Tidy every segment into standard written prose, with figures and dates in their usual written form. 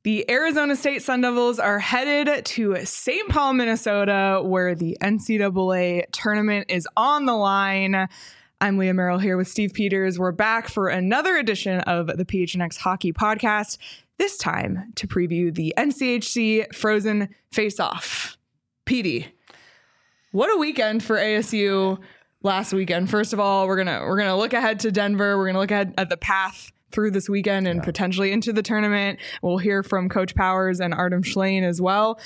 The Arizona State Sun Devils are headed to St. Paul, Minnesota, where the NCAA tournament is on the line. I'm Leah Merrill here with Steve Peters. We're back for another edition of the PHNX Hockey Podcast, this time to preview the NCHC Frozen Face-Off. Petey, what a weekend for ASU last weekend. First of all, we're gonna look ahead to Denver. We're gonna look ahead at the path through this weekend and potentially into the tournament. We'll hear from Coach Powers and Artem Schlane as well.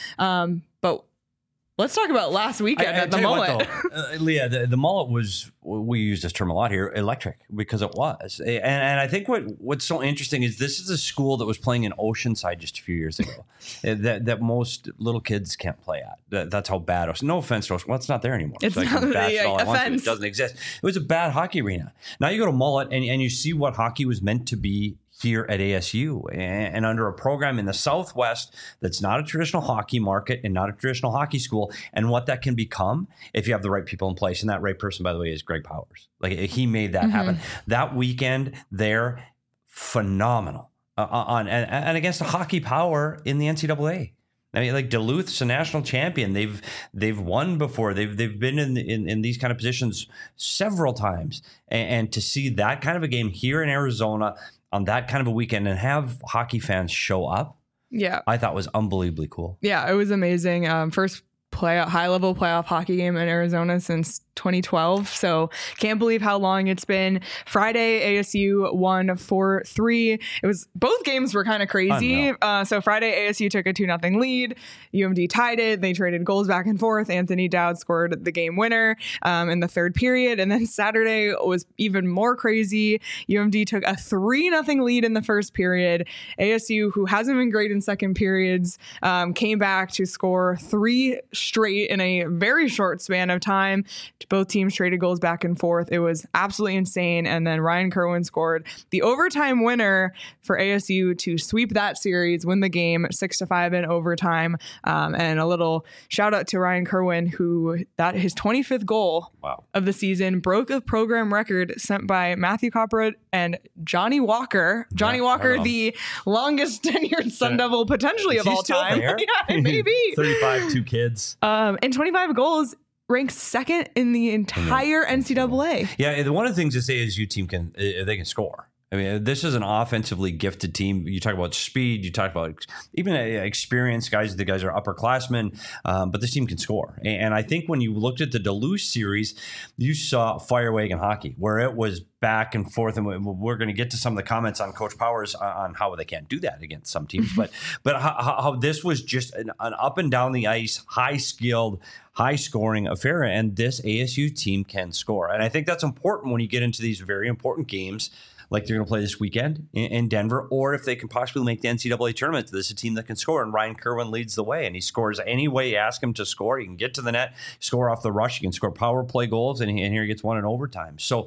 But let's talk about last weekend at the Mullet. Leah, the Mullet was, we use this term a lot here, electric, because it was. And I think what's so interesting is this is a school that was playing in Oceanside just a few years ago that most little kids can't play at. That's how bad it was. No offense to us. Well, it's not there anymore. It's like not it doesn't exist. It was a bad hockey arena. Now you go to Mullet and you see what hockey was meant to be here at ASU, and under a program in the Southwest that's not a traditional hockey market and not a traditional hockey school, and what that can become if you have the right people in place. And that right person, by the way, is Greg Powers. Like, he made that happen. That weekend there, phenomenal and against a hockey power in the NCAA. I mean, like Duluth's a national champion. They've won before. They've been in these kind of positions several times, and to see that kind of a game here in Arizona on that kind of a weekend and have hockey fans show up, I thought was unbelievably cool. Yeah, it was amazing. First high-level playoff hockey game in Arizona since 2012. So can't believe how long it's been. Friday, ASU won 4-3. Both games were kind of crazy. So Friday, ASU took a 2-0 lead. UMD tied it. They traded goals back and forth. Anthony Dowd scored the game winner in the third period. And then Saturday was even more crazy. UMD took a 3-0 lead in the first period. ASU, who hasn't been great in second periods, came back to score 3 straight in a very short span of time. Both teams traded goals back and forth. It was absolutely insane. And then Ryan Kerwin scored the overtime winner for ASU to sweep that series, win the game 6-5 in overtime. And a little shout out to Ryan Kerwin, who his 25th goal of the season broke a program record set by Matthew Copperwood and Johnny Walker. Johnny Walker, the longest tenured Sun Devil potentially of all time. Yeah, maybe. 35, 2 kids. And 25 goals, ranks second in the entire NCAA. Yeah, one of the things this ASU team can score. I mean, this is an offensively gifted team. You talk about speed. You talk about even experienced guys. The guys are upperclassmen, but this team can score. And I think when you looked at the Duluth series, you saw fire wagon hockey, where it was back and forth. And we're going to get to some of the comments on Coach Powers on how they can't do that against some teams. But how this was just an up and down the ice, high-skilled, high-scoring affair. And this ASU team can score. And I think that's important when you get into these very important games, like they're going to play this weekend in Denver, or if they can possibly make the NCAA tournament, this is a team that can score. And Ryan Kerwin leads the way, and he scores any way you ask him to score. He can get to the net, score off the rush. He can score power play goals, and here he gets one in overtime. So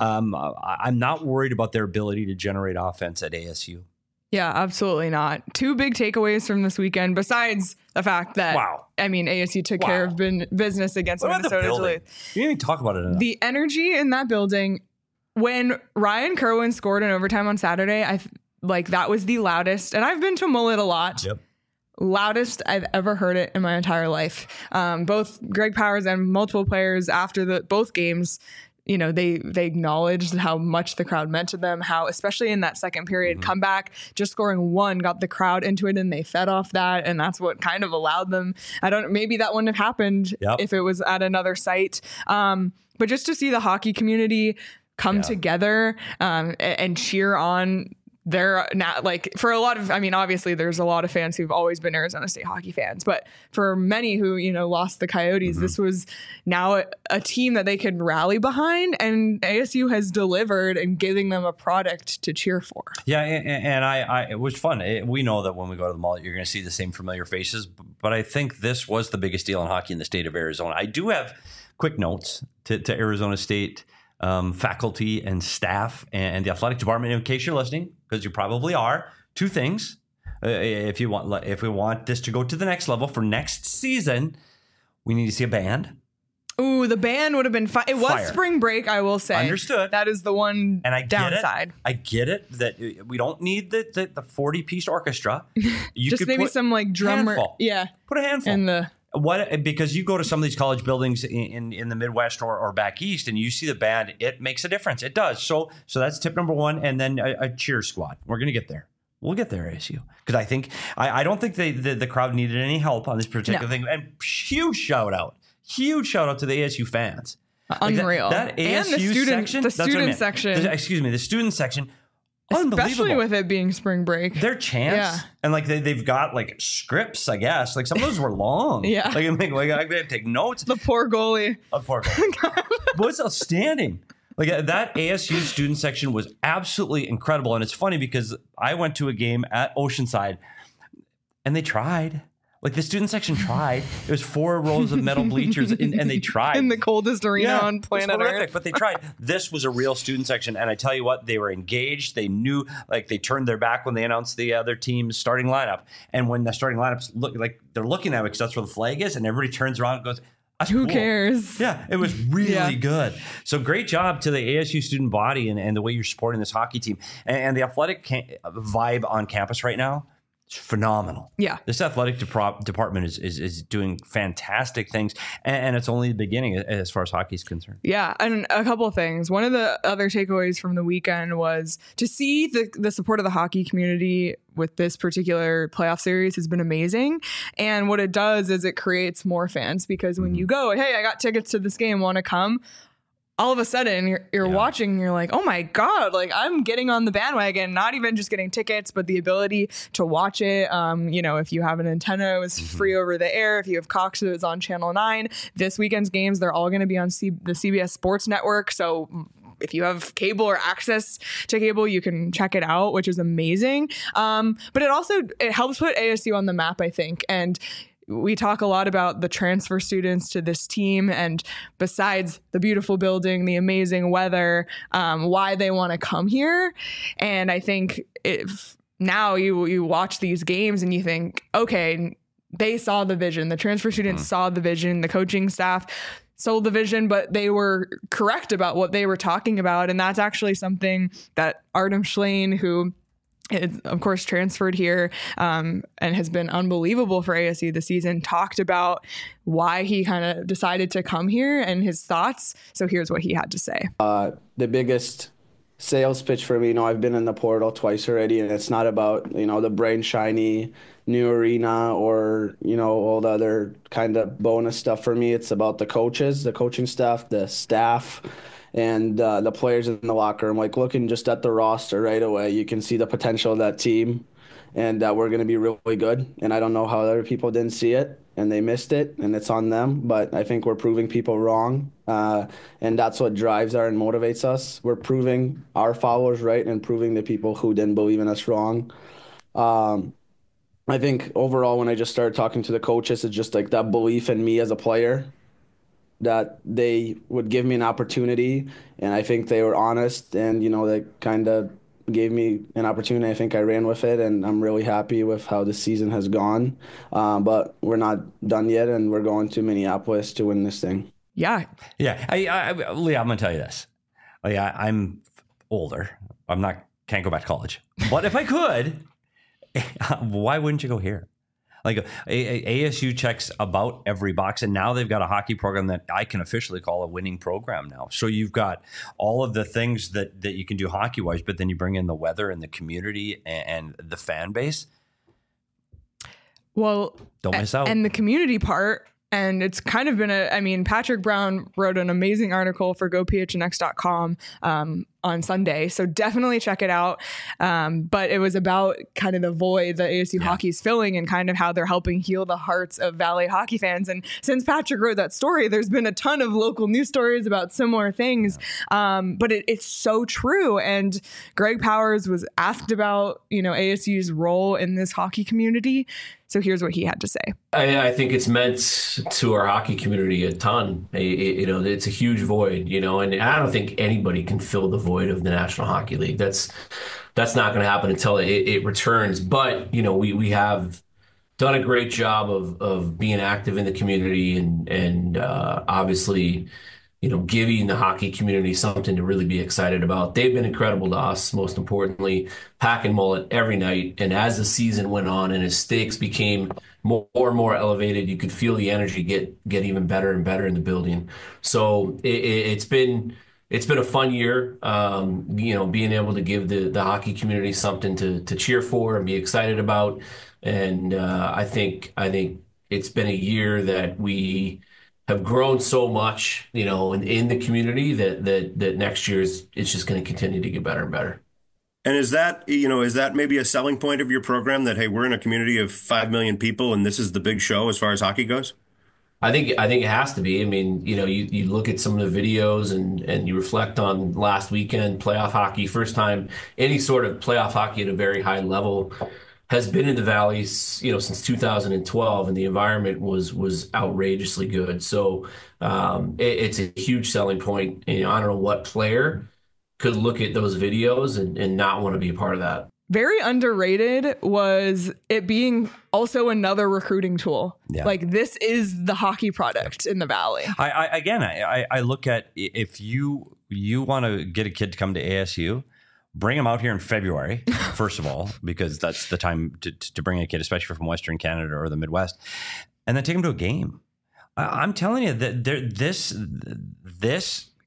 I'm not worried about their ability to generate offense at ASU. Yeah, absolutely not. 2 big takeaways from this weekend, besides the fact that, ASU took care of business against Minnesota Duluth. You didn't even talk about it enough. The energy in that building. When Ryan Kerwin scored in overtime on Saturday, that was the loudest, and I've been to Mullet a lot. Yep. Loudest I've ever heard it in my entire life. Both Greg Powers and multiple players after both games, they acknowledged how much the crowd meant to them, how, especially in that second period comeback, just scoring 1 got the crowd into it, and they fed off that. And that's what kind of allowed them. Maybe that wouldn't have happened if it was at another site. But just to see the hockey community come together and cheer on their, for a lot of, obviously there's a lot of fans who've always been Arizona State hockey fans, but for many who, lost the Coyotes, this was now a team that they could rally behind, and ASU has delivered and giving them a product to cheer for. Yeah. And it was fun. We know that when we go to the Mullet, you're going to see the same familiar faces, but I think this was the biggest deal in hockey in the state of Arizona. I do have quick notes to Arizona State faculty and staff and the athletic department, in case you're listening, because you probably are. 2 things. If we want this to go to the next level for next season, we need to see a band. Ooh, the band would have been fine. It was Fire. spring break, I will say. Understood. That is the one And I downside. get it that we don't need the 40-piece orchestra. You Just could maybe put some like drummer. handful. Yeah. Put a handful. In the Because you go to some of these college buildings in the Midwest or back east, and you see the band, it makes a difference. It does. So that's tip number one, and then a cheer squad. We're gonna get there. We'll get there, ASU, because I don't think the crowd needed any help on this particular thing. And huge shout out to the ASU fans. Unreal. That ASU and the student section, the that's what I student meant. section. The student section. Especially Unbelievable. with it being spring break. Their chants, and like they've got like scripts, I guess. Like some of those were long. Yeah. Like I gotta take notes. The poor goalie. Poor goalie. But it's outstanding. Like that ASU student section was absolutely incredible. And it's funny because I went to a game at Oceanside and they tried. Like the student section tried. It was 4 rows of metal bleachers and they tried. In the coldest arena on planet Earth. But they tried. This was a real student section. And I tell you what, they were engaged. They knew, like they turned their back when they announced the other team's starting lineup. And when the starting lineups look like they're looking at it because that's where the flag is, and everybody turns around and goes, who cares? Yeah, it was really good. So great job to the ASU student body and the way you're supporting this hockey team. And the athletic vibe on campus right now is phenomenal. Yeah. This athletic department is doing fantastic things. And it's only the beginning as far as hockey is concerned. Yeah, and a couple of things. One of the other takeaways from the weekend was to see the support of the hockey community with this particular playoff series has been amazing. And what it does is it creates more fans, because when you go, hey, I got tickets to this game, want to come? All of a sudden you're watching and you're like, oh my God, like I'm getting on the bandwagon, not even just getting tickets, but the ability to watch it. If you have an antenna, it was free over the air. If you have Cox, it was on Channel 9. This weekend's games, they're all going to be on the CBS Sports Network. So if you have cable or access to cable, you can check it out, which is amazing. But it helps put ASU on the map, I think. And we talk a lot about the transfer students to this team, and besides the beautiful building, the amazing weather, why they want to come here. And I think if now you watch these games and you think, okay, they saw the vision, the transfer students saw the vision, the coaching staff sold the vision, but they were correct about what they were talking about. And that's actually something that Artem Schlane, who is, of course, transferred here and has been unbelievable for ASU this season, talked about why he kind of decided to come here and his thoughts. So here's what he had to say. The biggest sales pitch for me, I've been in the portal twice already, and it's not about, the bright and shiny new arena or, all the other kind of bonus stuff for me. It's about the coaches, the coaching staff, the staff, and the players in the locker room. Like looking just at the roster right away, you can see the potential of that team, and we're going to be really good. And I don't know how other people didn't see it and they missed it, and it's on them. But I think we're proving people wrong, and that's what drives and motivates us. We're proving our followers right and proving the people who didn't believe in us wrong. I think overall, when I just started talking to the coaches, it's just like that belief in me as a player, that they would give me an opportunity, and I think they were honest, and they kind of gave me an opportunity. I think I ran with it, and I'm really happy with how the season has gone. But we're not done yet, and we're going to Minneapolis to win this thing. Yeah. Leah, I'm gonna tell you this. I'm older. Can't go back to college. But if I could, why wouldn't you go here? Like ASU checks about every box, and now they've got a hockey program that I can officially call a winning program now. So you've got all of the things that you can do hockey-wise, but then you bring in the weather and the community and the fan base. Well, don't miss out. And the community part. And it's kind of been Patrick Brown wrote an amazing article for GoPHNX.com on Sunday. So definitely check it out. But it was about kind of the void that ASU hockey is filling and kind of how they're helping heal the hearts of Valley hockey fans. And since Patrick wrote that story, there's been a ton of local news stories about similar things. But it's so true. And Greg Powers was asked about, ASU's role in this hockey community. So here's what he had to say. I think it's meant to our hockey community a ton. It's a huge void, and I don't think anybody can fill the void of the National Hockey League. That's not going to happen until it returns. But, we have done a great job of being active in the community and obviously, giving the hockey community something to really be excited about. They've been incredible to us, most importantly, packing mullet every night. And as the season went on and as stakes became more and more elevated, you could feel the energy get even better and better in the building. So it's been a fun year, being able to give the hockey community something to cheer for and be excited about. And I think it's been a year that we have grown so much, in the community that next year it's just going to continue to get better and better. And is that maybe a selling point of your program that, hey, we're in a community of 5 million people and this is the big show as far as hockey goes? I think it has to be. I mean, you look at some of the videos and you reflect on last weekend, playoff hockey, first time any sort of playoff hockey at a very high level has been in the Valley, since 2012, and the environment was outrageously good. So it's a huge selling point. I don't know what player could look at those videos and not want to be a part of that. Very underrated was it being also another recruiting tool. Yeah. Like, this is the hockey product in the Valley. I look at, if you want to get a kid to come to ASU, bring them out here in February, first of all, because that's the time to bring a kid, especially from Western Canada or the Midwest, and then take them to a game. I'm telling you that this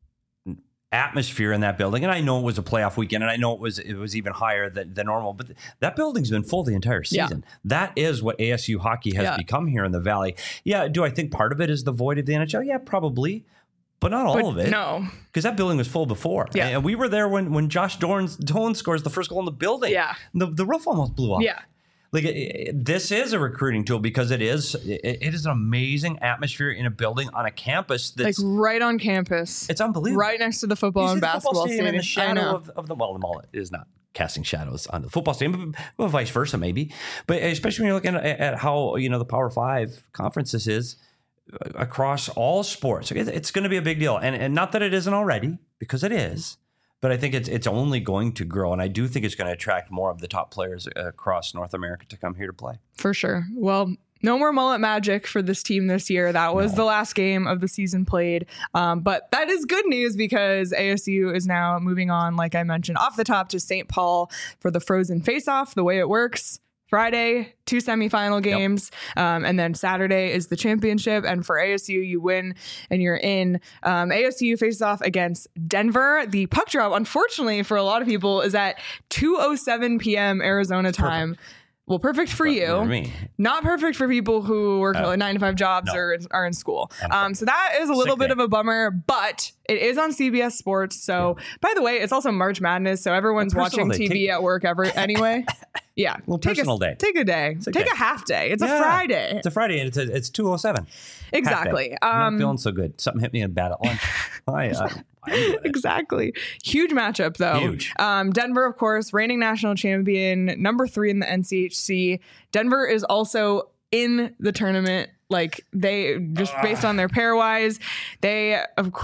atmosphere in that building, and I know it was a playoff weekend, and I know it was even higher than normal, but that building's been full the entire season. Yeah. That is what ASU hockey has become here in the Valley. Yeah, do I think part of it is the void of the NHL? Yeah, probably. But not all of it. No. Because that building was full before. Yeah. And we were there when Josh Doan scores the first goal in the building. Yeah. The roof almost blew off. Yeah. Like, this is a recruiting tool because it is an amazing atmosphere in a building on a campus that's like right on campus. It's unbelievable. Right next to the football and basketball stadium. In the shadow of the mullet is not casting shadows on the football stadium, but vice versa maybe. But especially when you're looking at how the Power 5 conferences is across all sports, it's going to be a big deal, and not that it isn't already, because it is, but I think it's only going to grow, and I do think it's going to attract more of the top players across North America to come here to play. For sure. Well, no more mullet magic for this team this year. That was the last game of the season played, but that is good news because ASU is now moving on, like I mentioned off the top, to St. Paul for the Frozen Face-Off. The way it works: Friday, 2 semifinal games, and then Saturday is the championship. And for ASU, you win and you're in. ASU faces off against Denver. The puck drop, unfortunately for a lot of people, is at 2:07 p.m. Arizona time. Perfect. Well, perfect for you. For me. Not perfect for people who work 9-to-5 jobs or are in school. So that is a little bit of a bummer, but it is on CBS Sports. So, by the way, it's also March Madness, so everyone's watching TV at work anyway. Yeah. Personal day. Take a day. Take a half day. It's a Friday. It's a Friday, and it's 2:07. Exactly. I'm not feeling so good. Something hit me bad at lunch. Exactly. Huge matchup, though. Huge. Denver, of course, reigning national champion, number 3 in the NCHC. Denver is also in the tournament. Like, they just based on their pairwise, they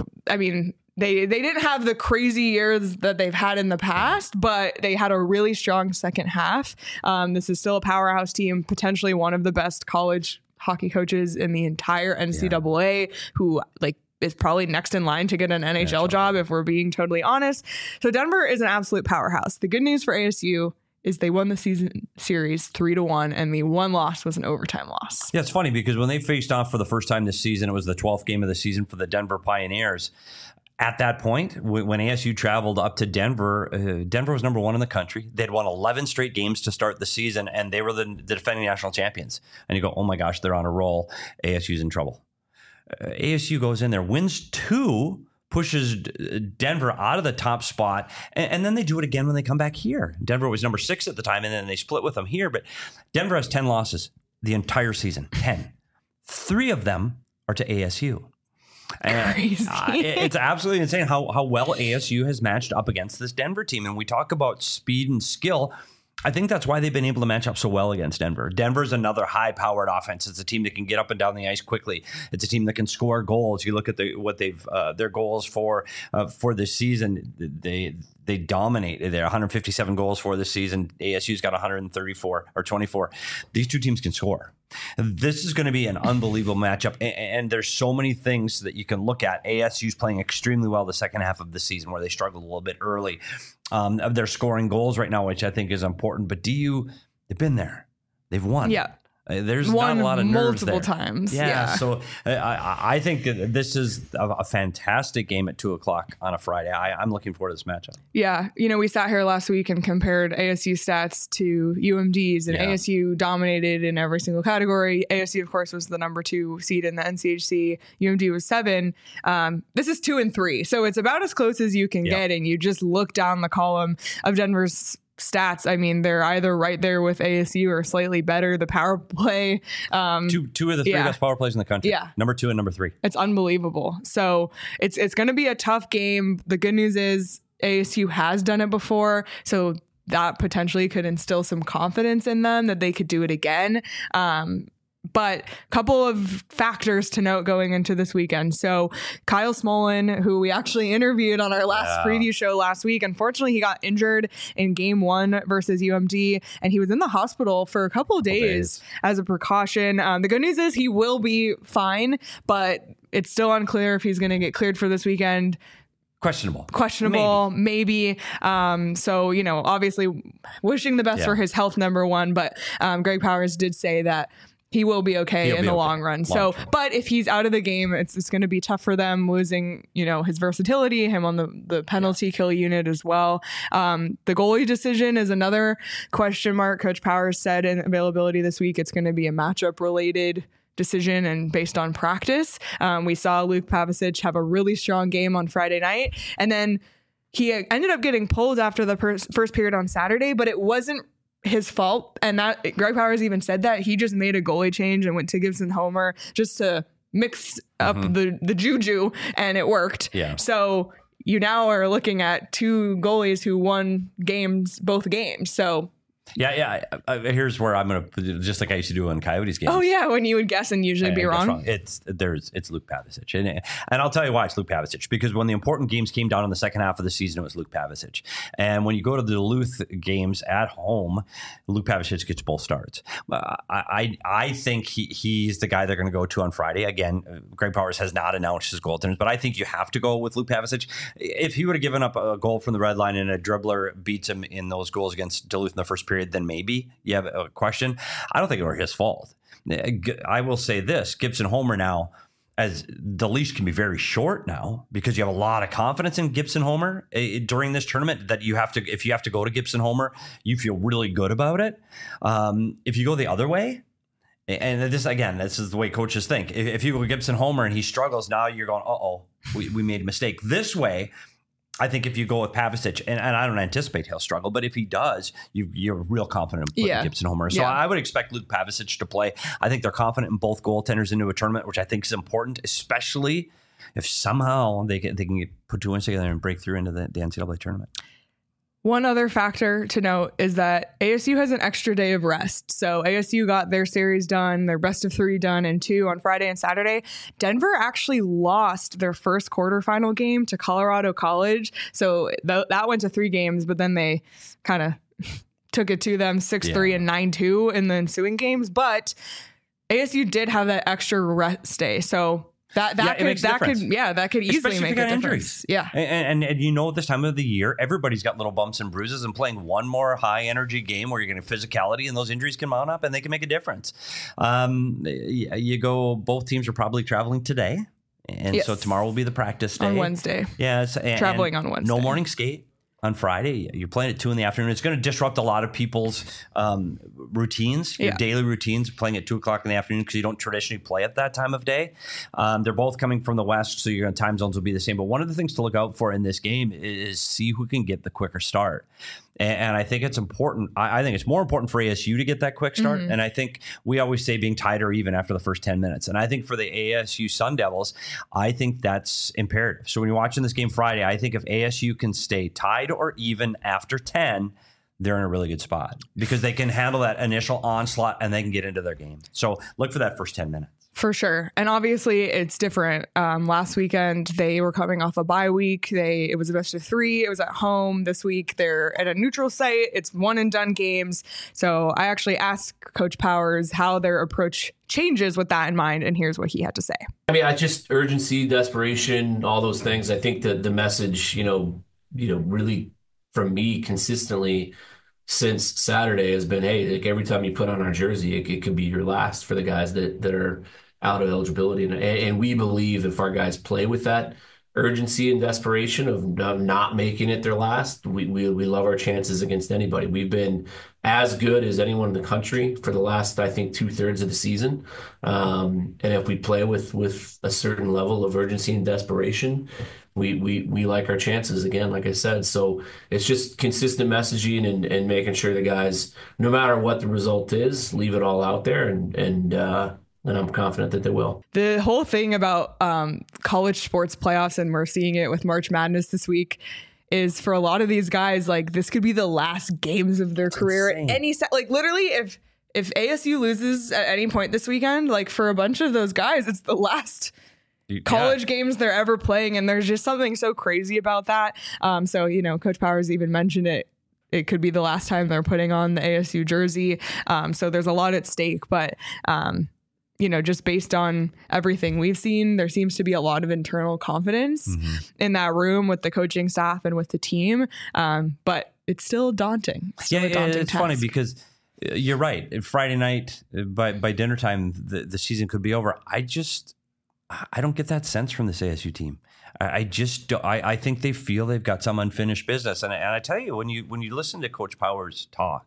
didn't have the crazy years that they've had in the past, but they had a really strong second half. This is still a powerhouse team, potentially one of the best college hockey coaches in the entire NCAA, who is probably next in line to get an NHL job, if we're being totally honest. So Denver is an absolute powerhouse. The good news for ASU is they won the season series 3-1, and the one loss was an overtime loss. Yeah, it's funny because when they faced off for the first time this season, it was the 12th game of the season for the Denver Pioneers. At that point, when ASU traveled up to Denver, Denver was number 1 in the country. They'd won 11 straight games to start the season, and they were the defending national champions. And you go, oh my gosh, they're on a roll. ASU's in trouble. ASU goes in there, wins 2, pushes Denver out of the top spot, and then they do it again when they come back here. Denver was number 6 at the time, and then they split with them here. But Denver has 10 losses the entire season. 10. 3 of them are to ASU. Crazy. It's absolutely insane how well ASU has matched up against this Denver team. And we talk about speed and skill. I think that's why they've been able to match up so well against Denver. Denver's another high-powered offense. It's a team that can get up and down the ice quickly. It's a team that can score goals. You look at what they've their goals for this season. They dominate. They're 157 goals for this season. ASU's got 134 or 24. These two teams can score. This is going to be an unbelievable matchup, and there's so many things that you can look at. ASU's playing extremely well the second half of the season, where they struggled a little bit early. They're scoring goals right now, which I think is important. But they've been there. They've won. Yeah. There's won not a lot of nerves multiple there. times. Yeah. So I think that this is a fantastic game at 2:00 on a Friday. I'm looking forward to this matchup. Yeah. We sat here last week and compared ASU stats to UMD's, and ASU dominated in every single category. ASU, of course, was the number 2 seed in the NCHC. UMD was 7. This is 2 and 3. So it's about as close as you can get. And you just look down the column of Denver's stats. I mean, they're either right there with ASU or slightly better. The power play, two of the 3 best power plays in the country. Yeah. Number 2 and number 3. It's unbelievable. So it's going to be a tough game. The good news is ASU has done it before, so that potentially could instill some confidence in them that they could do it again. But a couple of factors to note going into this weekend. So Kyle Smolin, who we actually interviewed on our last preview show last week, unfortunately, he got injured in game 1 versus UMD, and he was in the hospital for a couple of days as a precaution. The good news is he will be fine, but it's still unclear if he's going to get cleared for this weekend. Questionable, maybe. So, obviously wishing the best for his health, number one, but Greg Powers did say that he will be okay in the long run. But if he's out of the game, it's going to be tough for them, losing, his versatility, him on the penalty kill unit as well. The goalie decision is another question mark. Coach Powers said in availability this week, it's going to be a matchup related decision and based on practice. We saw Luke Pavicic have a really strong game on Friday night, and then he ended up getting pulled after the first period on Saturday, but it wasn't his fault. And that Greg Powers even said that he just made a goalie change and went to Gibson Homer just to mix up the juju, and it worked. Yeah. So you now are looking at 2 goalies who won both games. So here's where I'm going to, just like I used to do in Coyotes games. Oh yeah, when you would guess and usually be wrong. It's Luke Pavicic, and I'll tell you why it's Luke Pavicic, because when the important games came down in the second half of the season, it was Luke Pavicic. And when you go to the Duluth games at home, Luke Pavicic gets both starts. I think he's the guy they're going to go to on Friday. Again, Greg Powers has not announced his goaltenders, but I think you have to go with Luke Pavicic. If he would have given up a goal from the red line and a dribbler beats him in those goals against Duluth in the first period, then maybe you have a question. I don't think it were his fault. I will say this: Gibson Homer now, as the leash can be very short now, because you have a lot of confidence in Gibson Homer during this tournament, that if you have to go to Gibson Homer, you feel really good about it. If you go the other way, and this is the way coaches think. If you go Gibson Homer and he struggles, now you're going, we made a mistake. This way, I think if you go with Pavicic, and I don't anticipate he'll struggle, but if he does, you're real confident in putting Gibson Homer. So I would expect Luke Pavicic to play. I think they're confident in both goaltenders into a tournament, which I think is important, especially if somehow they can put 2 wins together and break through into the NCAA tournament. One other factor to note is that ASU has an extra day of rest. So ASU got their series done, their best of 3 done in 2 on Friday and Saturday. Denver actually lost their first quarterfinal game to Colorado College. So that went to 3 games, but then they kind of took it to them 6-3 and 9-2 in the ensuing games. But ASU did have that extra rest day. So that could easily make a difference. Yeah. And this time of the year, everybody's got little bumps and bruises, and playing one more high energy game where you're going to physicality and those injuries can mount up and they can make a difference. Both teams are probably traveling today. And so tomorrow will be the practice day. On Wednesday. Yes. Traveling on Wednesday. No morning skate on Friday. You're playing at 2 p.m. It's going to disrupt a lot of people's routines, your daily routines, playing at 2 o'clock in the afternoon, because you don't traditionally play at that time of day. They're both coming from the West, so your time zones will be the same. But one of the things to look out for in this game is see who can get the quicker start. And I think it's important. I think it's more important for ASU to get that quick start. And I think we always say being tied or even after the first 10 minutes. And I think for the ASU Sun Devils, I think that's imperative. So when you're watching this game Friday, I think if ASU can stay tied or even after 10, they're in a really good spot because they can handle that initial onslaught and they can get into their game. So look for that first 10 minutes. For sure. And obviously it's different. Last weekend, they were coming off a bye week. It was a best of 3. It was at home. This week, they're at a neutral site. It's one and done games. So I actually asked Coach Powers how their approach changes with that in mind. And here's what he had to say. I mean, I just urgency, desperation, all those things. I think that the message, really from me consistently since Saturday has been, hey, like every time you put on our jersey, it could be your last for the guys that are out of eligibility. And we believe if our guys play with that urgency and desperation of not making it their last, we love our chances against anybody. We've been as good as anyone in the country for the last, I think, 2/3 of the season. And if we play with a certain level of urgency and desperation, we like our chances again, like I said. So it's just consistent messaging and making sure the guys, no matter what the result is, leave it all out there and I'm confident that they will. The whole thing about college sports playoffs, and we're seeing it with March Madness this week, is for a lot of these guys, like this could be the last games of their career. Like literally, if ASU loses at any point this weekend, like for a bunch of those guys, it's the last college games they're ever playing, and there's just something so crazy about that. So Coach Powers even mentioned it. It could be the last time they're putting on the ASU jersey. So there's a lot at stake, but just based on everything we've seen, there seems to be a lot of internal confidence in that room with the coaching staff and with the team. But it's still daunting. It's funny because you're right. Friday night by dinner time, the season could be over. I don't get that sense from this ASU team. I think they feel they've got some unfinished business. And I tell you, when you listen to Coach Powers talk,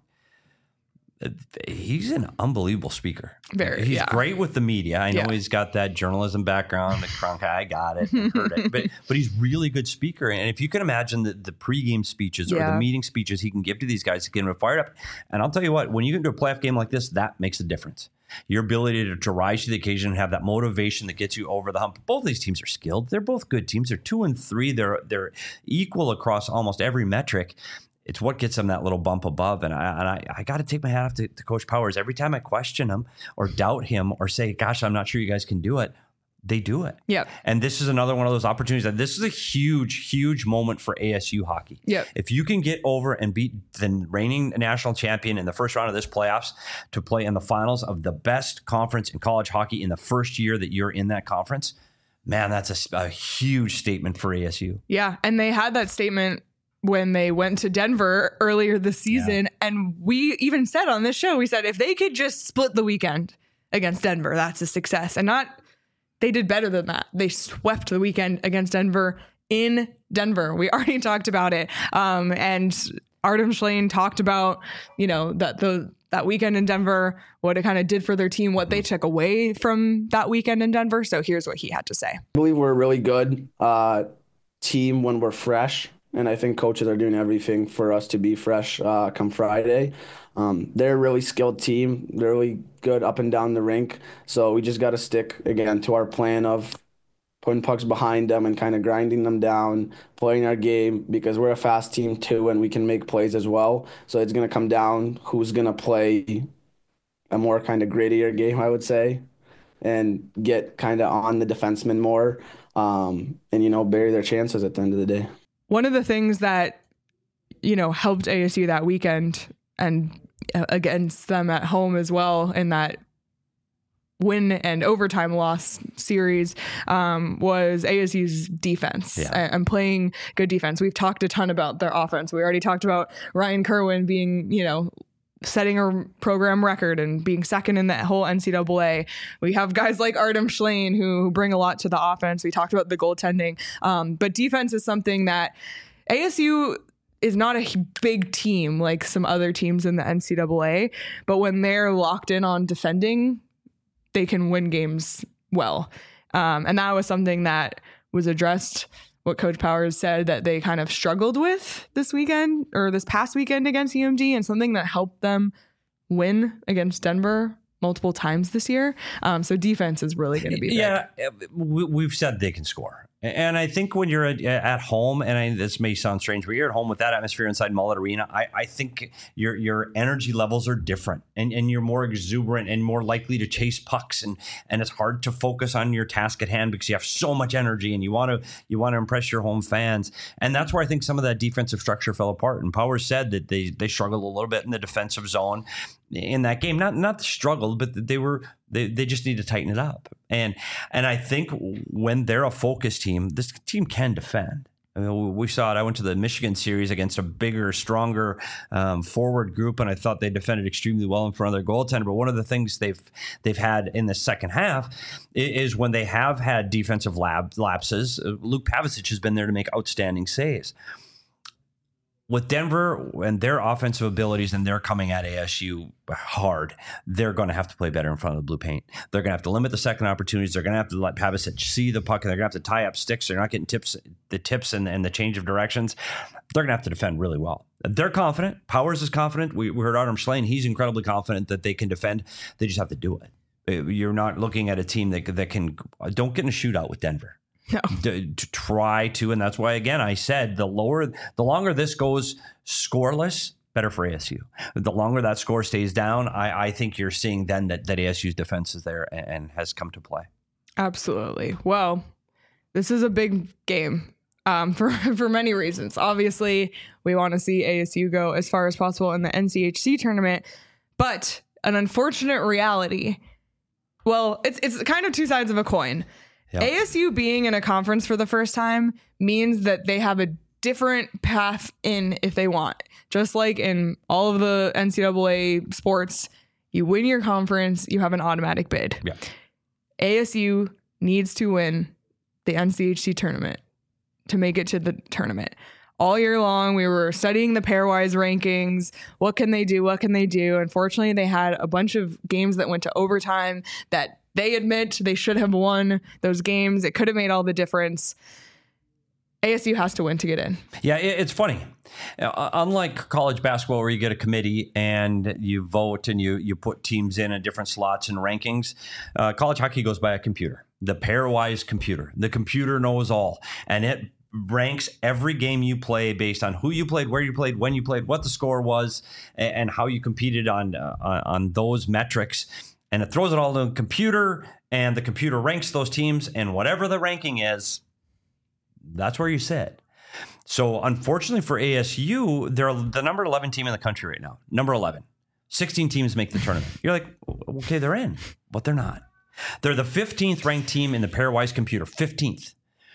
he's an unbelievable speaker. He's great with the media. I know he's got that journalism background. The Cronkite, I got it, I heard it. But he's really good speaker. And if you can imagine the pregame speeches or the meeting speeches he can give to these guys to get them fired up. And I'll tell you what, when you get into a playoff game like this, that makes a difference. Your ability to rise to the occasion and have that motivation that gets you over the hump. Both these teams are skilled. They're both good teams. They're 2-3. They're equal across almost every metric. It's what gets them that little bump above. And I got to take my hat off to Coach Powers. Every time I question him or doubt him or say, gosh, I'm not sure you guys can do it, they do it. Yep. And this is another one of those opportunities that this is a huge, huge moment for ASU hockey. Yep. If you can get over and beat the reigning national champion in the first round of this playoffs to play in the finals of the best conference in college hockey in the first year that you're in that conference, man, that's a huge statement for ASU. Yeah. And they had that statement when they went to Denver earlier this season. And we even said on this show, we said, if they could just split the weekend against Denver, that's a success. And they did better than that. They swept the weekend against Denver in Denver. We already talked about it. And Artem Schlane talked about, that weekend in Denver, what it kind of did for their team, what they took away from that weekend in Denver. So here's what he had to say. I believe we're a really good team when we're fresh. And I think coaches are doing everything for us to be fresh come Friday. They're a really skilled team. They're really good up and down the rink. So we just got to stick, again, to our plan of putting pucks behind them and kind of grinding them down, playing our game, because we're a fast team too and we can make plays as well. So it's going to come down who's going to play a more kind of grittier game, I would say, and get kind of on the defenseman more and, bury their chances at the end of the day. One of the things that, helped ASU that weekend and against them at home as well in that win and overtime loss series was ASU's defense and playing good defense. We've talked a ton about their offense. We already talked about Ryan Kerwin being, setting a program record and being second in that whole NCAA. We have guys like Artem Schlane who bring a lot to the offense. We talked about the goaltending. But defense is something that ASU is not a big team like some other teams in the NCAA. But when they're locked in on defending, they can win games well. And that was something that was addressed. What Coach Powers said that they kind of struggled with this weekend or this past weekend against UMD, and something that helped them win against Denver multiple times this year. So defense is really going to be big. Yeah, we've said they can score. And I think when you're at home, and this may sound strange, but you're at home with that atmosphere inside Mullet Arena, I think your energy levels are different, and you're more exuberant and more likely to chase pucks, and it's hard to focus on your task at hand because you have so much energy and you want to impress your home fans. And that's where I think some of that defensive structure fell apart. And Powers said that they struggled a little bit in the defensive zone in that game. Not struggled, but they just need to tighten it up. And I think when they're a focused team, this team can defend. I mean, we saw it. I went to the Michigan series against a bigger, stronger forward group, and I thought they defended extremely well in front of their goaltender. But one of the things they've had in the second half is when they have had defensive lapses, Luke Pavicic has been there to make outstanding saves. With Denver and their offensive abilities, and they're coming at ASU hard, they're going to have to play better in front of the blue paint. They're going to have to limit the second opportunities. They're going to have to let Pavicic see the puck, and they're going to have to tie up sticks. They're not getting the tips and the change of directions. They're going to have to defend really well. They're confident. Powers is confident. We heard Artem Schlein. He's incredibly confident that they can defend. They just have to do it. You're not looking at a team that can don't get in a shootout with Denver. No. To try to, and that's why, again, I said the longer this goes scoreless, better for ASU. The longer that score stays down, I think you're seeing then that ASU's defense is there and has come to play. Absolutely. Well, this is a big game for many reasons. Obviously, we want to see ASU go as far as possible in the NCHC tournament, but an unfortunate reality. Well, it's kind of two sides of a coin. Yep. ASU being in a conference for the first time means that they have a different path in if they want. Just like in all of the NCAA sports, you win your conference, you have an automatic bid. Yeah. ASU needs to win the NCHC tournament to make it to the tournament. All year long, we were studying the pairwise rankings. What can they do? What can they do? Unfortunately, they had a bunch of games that went to overtime that they admit they should have won those games. It could have made all the difference. ASU has to win to get in. Yeah, it's funny. Unlike college basketball where you get a committee and you vote and you put teams in different slots and rankings, college hockey goes by a computer, the pairwise computer. The computer knows all, and it ranks every game you play based on who you played, where you played, when you played, what the score was, and how you competed on those metrics. And it throws it all in the computer, and the computer ranks those teams, and whatever the ranking is, that's where you sit. So unfortunately for ASU, they're the number 11 team in the country right now. Number 11. 16 teams make the tournament. You're like, okay, they're in, but they're not. They're the 15th ranked team in the pairwise computer, 15th.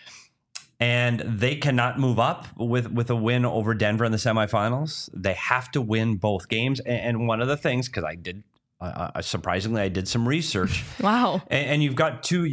And they cannot move up with a win over Denver in the semifinals. They have to win both games. And one of the things, because surprisingly, I did some research. Wow. And you've got the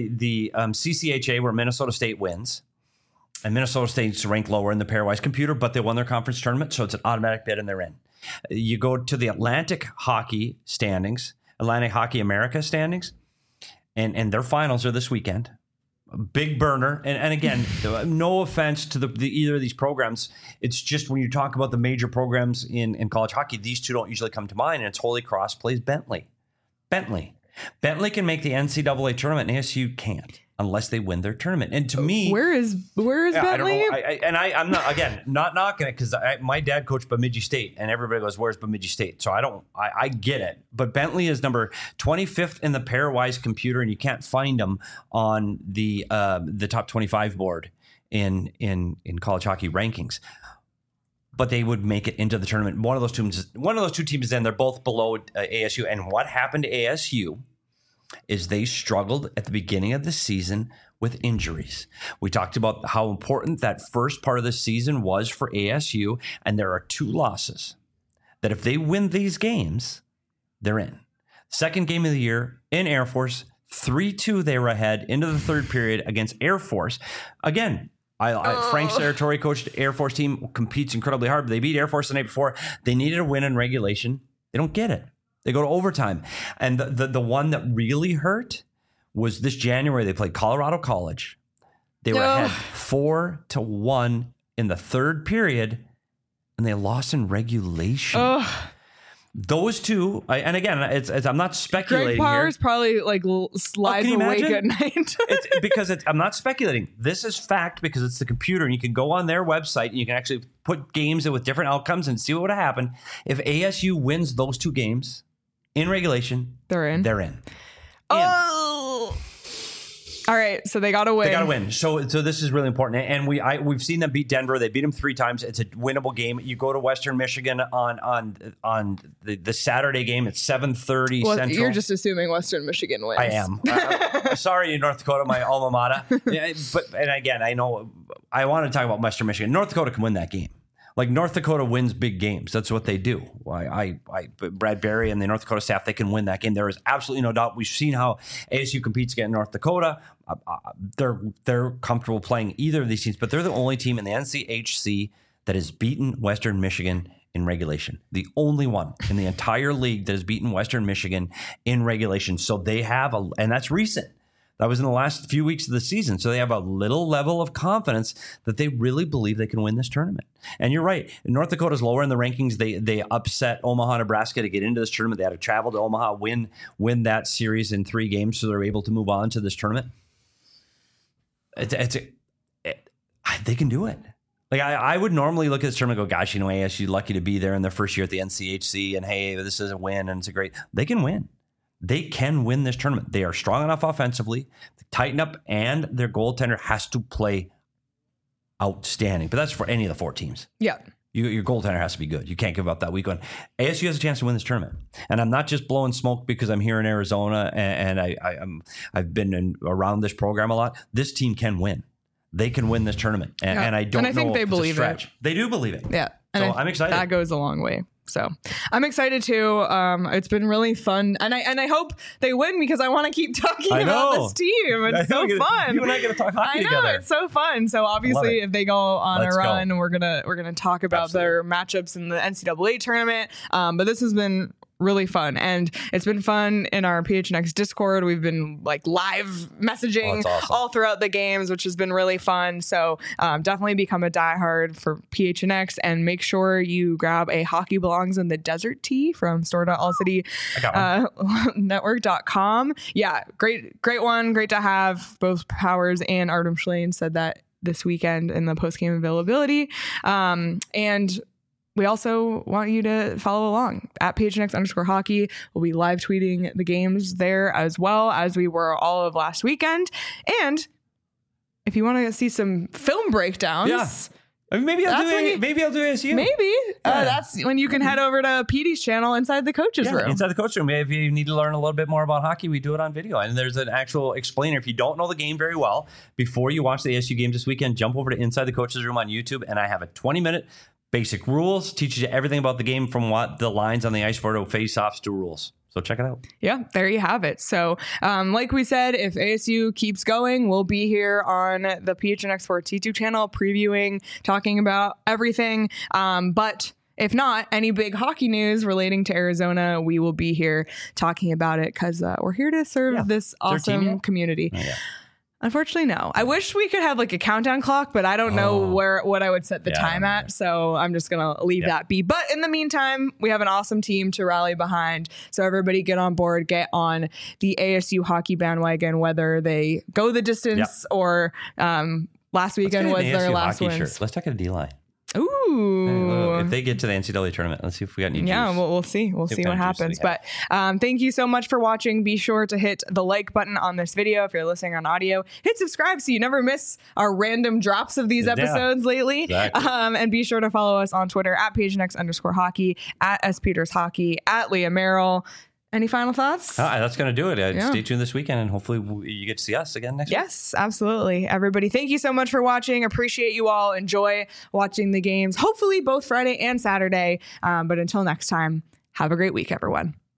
CCHA where Minnesota State wins. And Minnesota State's ranked lower in the pairwise computer, but they won their conference tournament, so it's an automatic bid and they're in. You go to the Atlantic Hockey standings, Atlantic Hockey America standings, and their finals are this weekend. Big burner. And again, no offense to either of these programs. It's just when you talk about the major programs in college hockey, these two don't usually come to mind, and it's Holy Cross plays Bentley. Bentley can make the NCAA tournament, and ASU can't unless they win their tournament. And to me, where is Bentley? I don't know. I'm not knocking it because my dad coached Bemidji State, and everybody goes, "Where's Bemidji State?" So I get it. But Bentley is number 25th in the pairwise computer, and you can't find them on the top 25 board in college hockey rankings. But they would make it into the tournament. One of those two teams, then they're both below ASU. And what happened to ASU is they struggled at the beginning of the season with injuries. We talked about how important that first part of the season was for ASU, and there are two losses that if they win these games, they're in. Second game of the year in Air Force, 3-2 they were ahead into the third period against Air Force. Again, Frank Serratori coached Air Force team, competes incredibly hard, but they beat Air Force the night before. They needed a win in regulation. They don't get it. They go to overtime. And the one that really hurt was this January. They played Colorado College. They were ahead 4-1 in the third period, and they lost in regulation. Those two, and again, I'm not speculating. Greg Powers here. probably like lies awake at night. Because I'm not speculating. This is fact because it's the computer, and you can go on their website and you can actually put games in with different outcomes and see what would have happened if ASU wins those two games in regulation. They're in. They're in. Oh. All right, so they got to win. They got to win. So this is really important. And we've seen them beat Denver. They beat them 3 times. It's a winnable game. You go to Western Michigan on the Saturday game. It's 7:30 Central. You're just assuming Western Michigan wins. I am. Sorry, North Dakota, my alma mater. And again, I know I want to talk about Western Michigan. North Dakota can win that game. Like North Dakota wins big games. That's what they do. Brad Berry and the North Dakota staff, they can win that game. There is absolutely no doubt. We've seen how ASU competes against North Dakota. They're comfortable playing either of these teams, but they're the only team in the NCHC that has beaten Western Michigan in regulation. The only one in the entire league that has beaten Western Michigan in regulation. So they have and that's recent. That was in the last few weeks of the season. So they have a little level of confidence that they really believe they can win this tournament. And you're right. North Dakota's lower in the rankings. They upset Omaha, Nebraska to get into this tournament. They had to travel to Omaha, win that series in 3 games, so they're able to move on to this tournament. They can do it. Like I would normally look at this tournament and go, gosh, ASU lucky to be there in their first year at the NCHC, and hey, this is a win, and it's a great. They can win. They can win this tournament. They are strong enough offensively to tighten up, and their goaltender has to play outstanding. But that's for any of the 4 teams. Yeah. Your goaltender has to be good. You can't give up that week one. ASU has a chance to win this tournament. And I'm not just blowing smoke because I'm here in Arizona and I've been around this program a lot. This team can win. They can win this tournament. And I don't know. And I think they believe it. They do believe it. Yeah. So I'm excited. That goes a long way. So I'm excited too. It's been really fun, and I hope they win because I want to keep talking about this team. It's so fun. You and I get to talk hockey together. I know, it's so fun. So obviously, if they go on a run, we're gonna talk about their matchups in the NCAA tournament. But this has been really fun, and it's been fun in our PHNX Discord. We've been like live messaging all throughout the games, which has been really fun. So definitely become a diehard for PHNX, and make sure you grab a Hockey Belongs in the Desert tee from store.allcitynetwork.com. Yeah, great one. Great to have. Both Powers and Artem Schlane said that this weekend in the post-game availability. And we also want you to follow along at PHNX_hockey. We'll be live tweeting the games there as well as we were all of last weekend. And if you want to see some film breakdowns, I mean, maybe I'll do ASU. Maybe that's when you can head over to PD's channel Inside the Coach's Room. Inside the Coach Room. If you need to learn a little bit more about hockey, we do it on video, and there's an actual explainer. If you don't know the game very well, before you watch the ASU games this weekend, jump over to Inside the Coach's Room on YouTube, and I have a 20-minute basic rules, teaches you everything about the game from what the lines on the ice for to face-offs to rules. So check it out. Yeah, there you have it. So like we said, if ASU keeps going, we'll be here on the PHNX Sports YouTube channel previewing, talking about everything. But if not, any big hockey news relating to Arizona, we will be here talking about it because we're here to serve this awesome community. Oh, yeah. Unfortunately, no. I wish we could have like a countdown clock, but I don't know what I would set the time at. So I'm just going to leave that be. But in the meantime, we have an awesome team to rally behind. So everybody get on board, get on the ASU hockey bandwagon, whether they go the distance or last weekend was their last win. Let's talk to D-line. Ooh. Hey, if they get to the NCAA tournament, let's see if we got any juice. Yeah, we'll see. We'll see what happens. But thank you so much for watching. Be sure to hit the like button on this video if you're listening on audio. Hit subscribe so you never miss our random drops of these episodes lately. Exactly. And be sure to follow us on Twitter at PHNX_hockey, at SPetersHockey, at Leah Merrill. Any final thoughts? That's going to do it. Stay tuned this weekend, and hopefully you get to see us again next week. Yes, absolutely. Everybody, thank you so much for watching. Appreciate you all. Enjoy watching the games, hopefully both Friday and Saturday. But until next time, have a great week, everyone.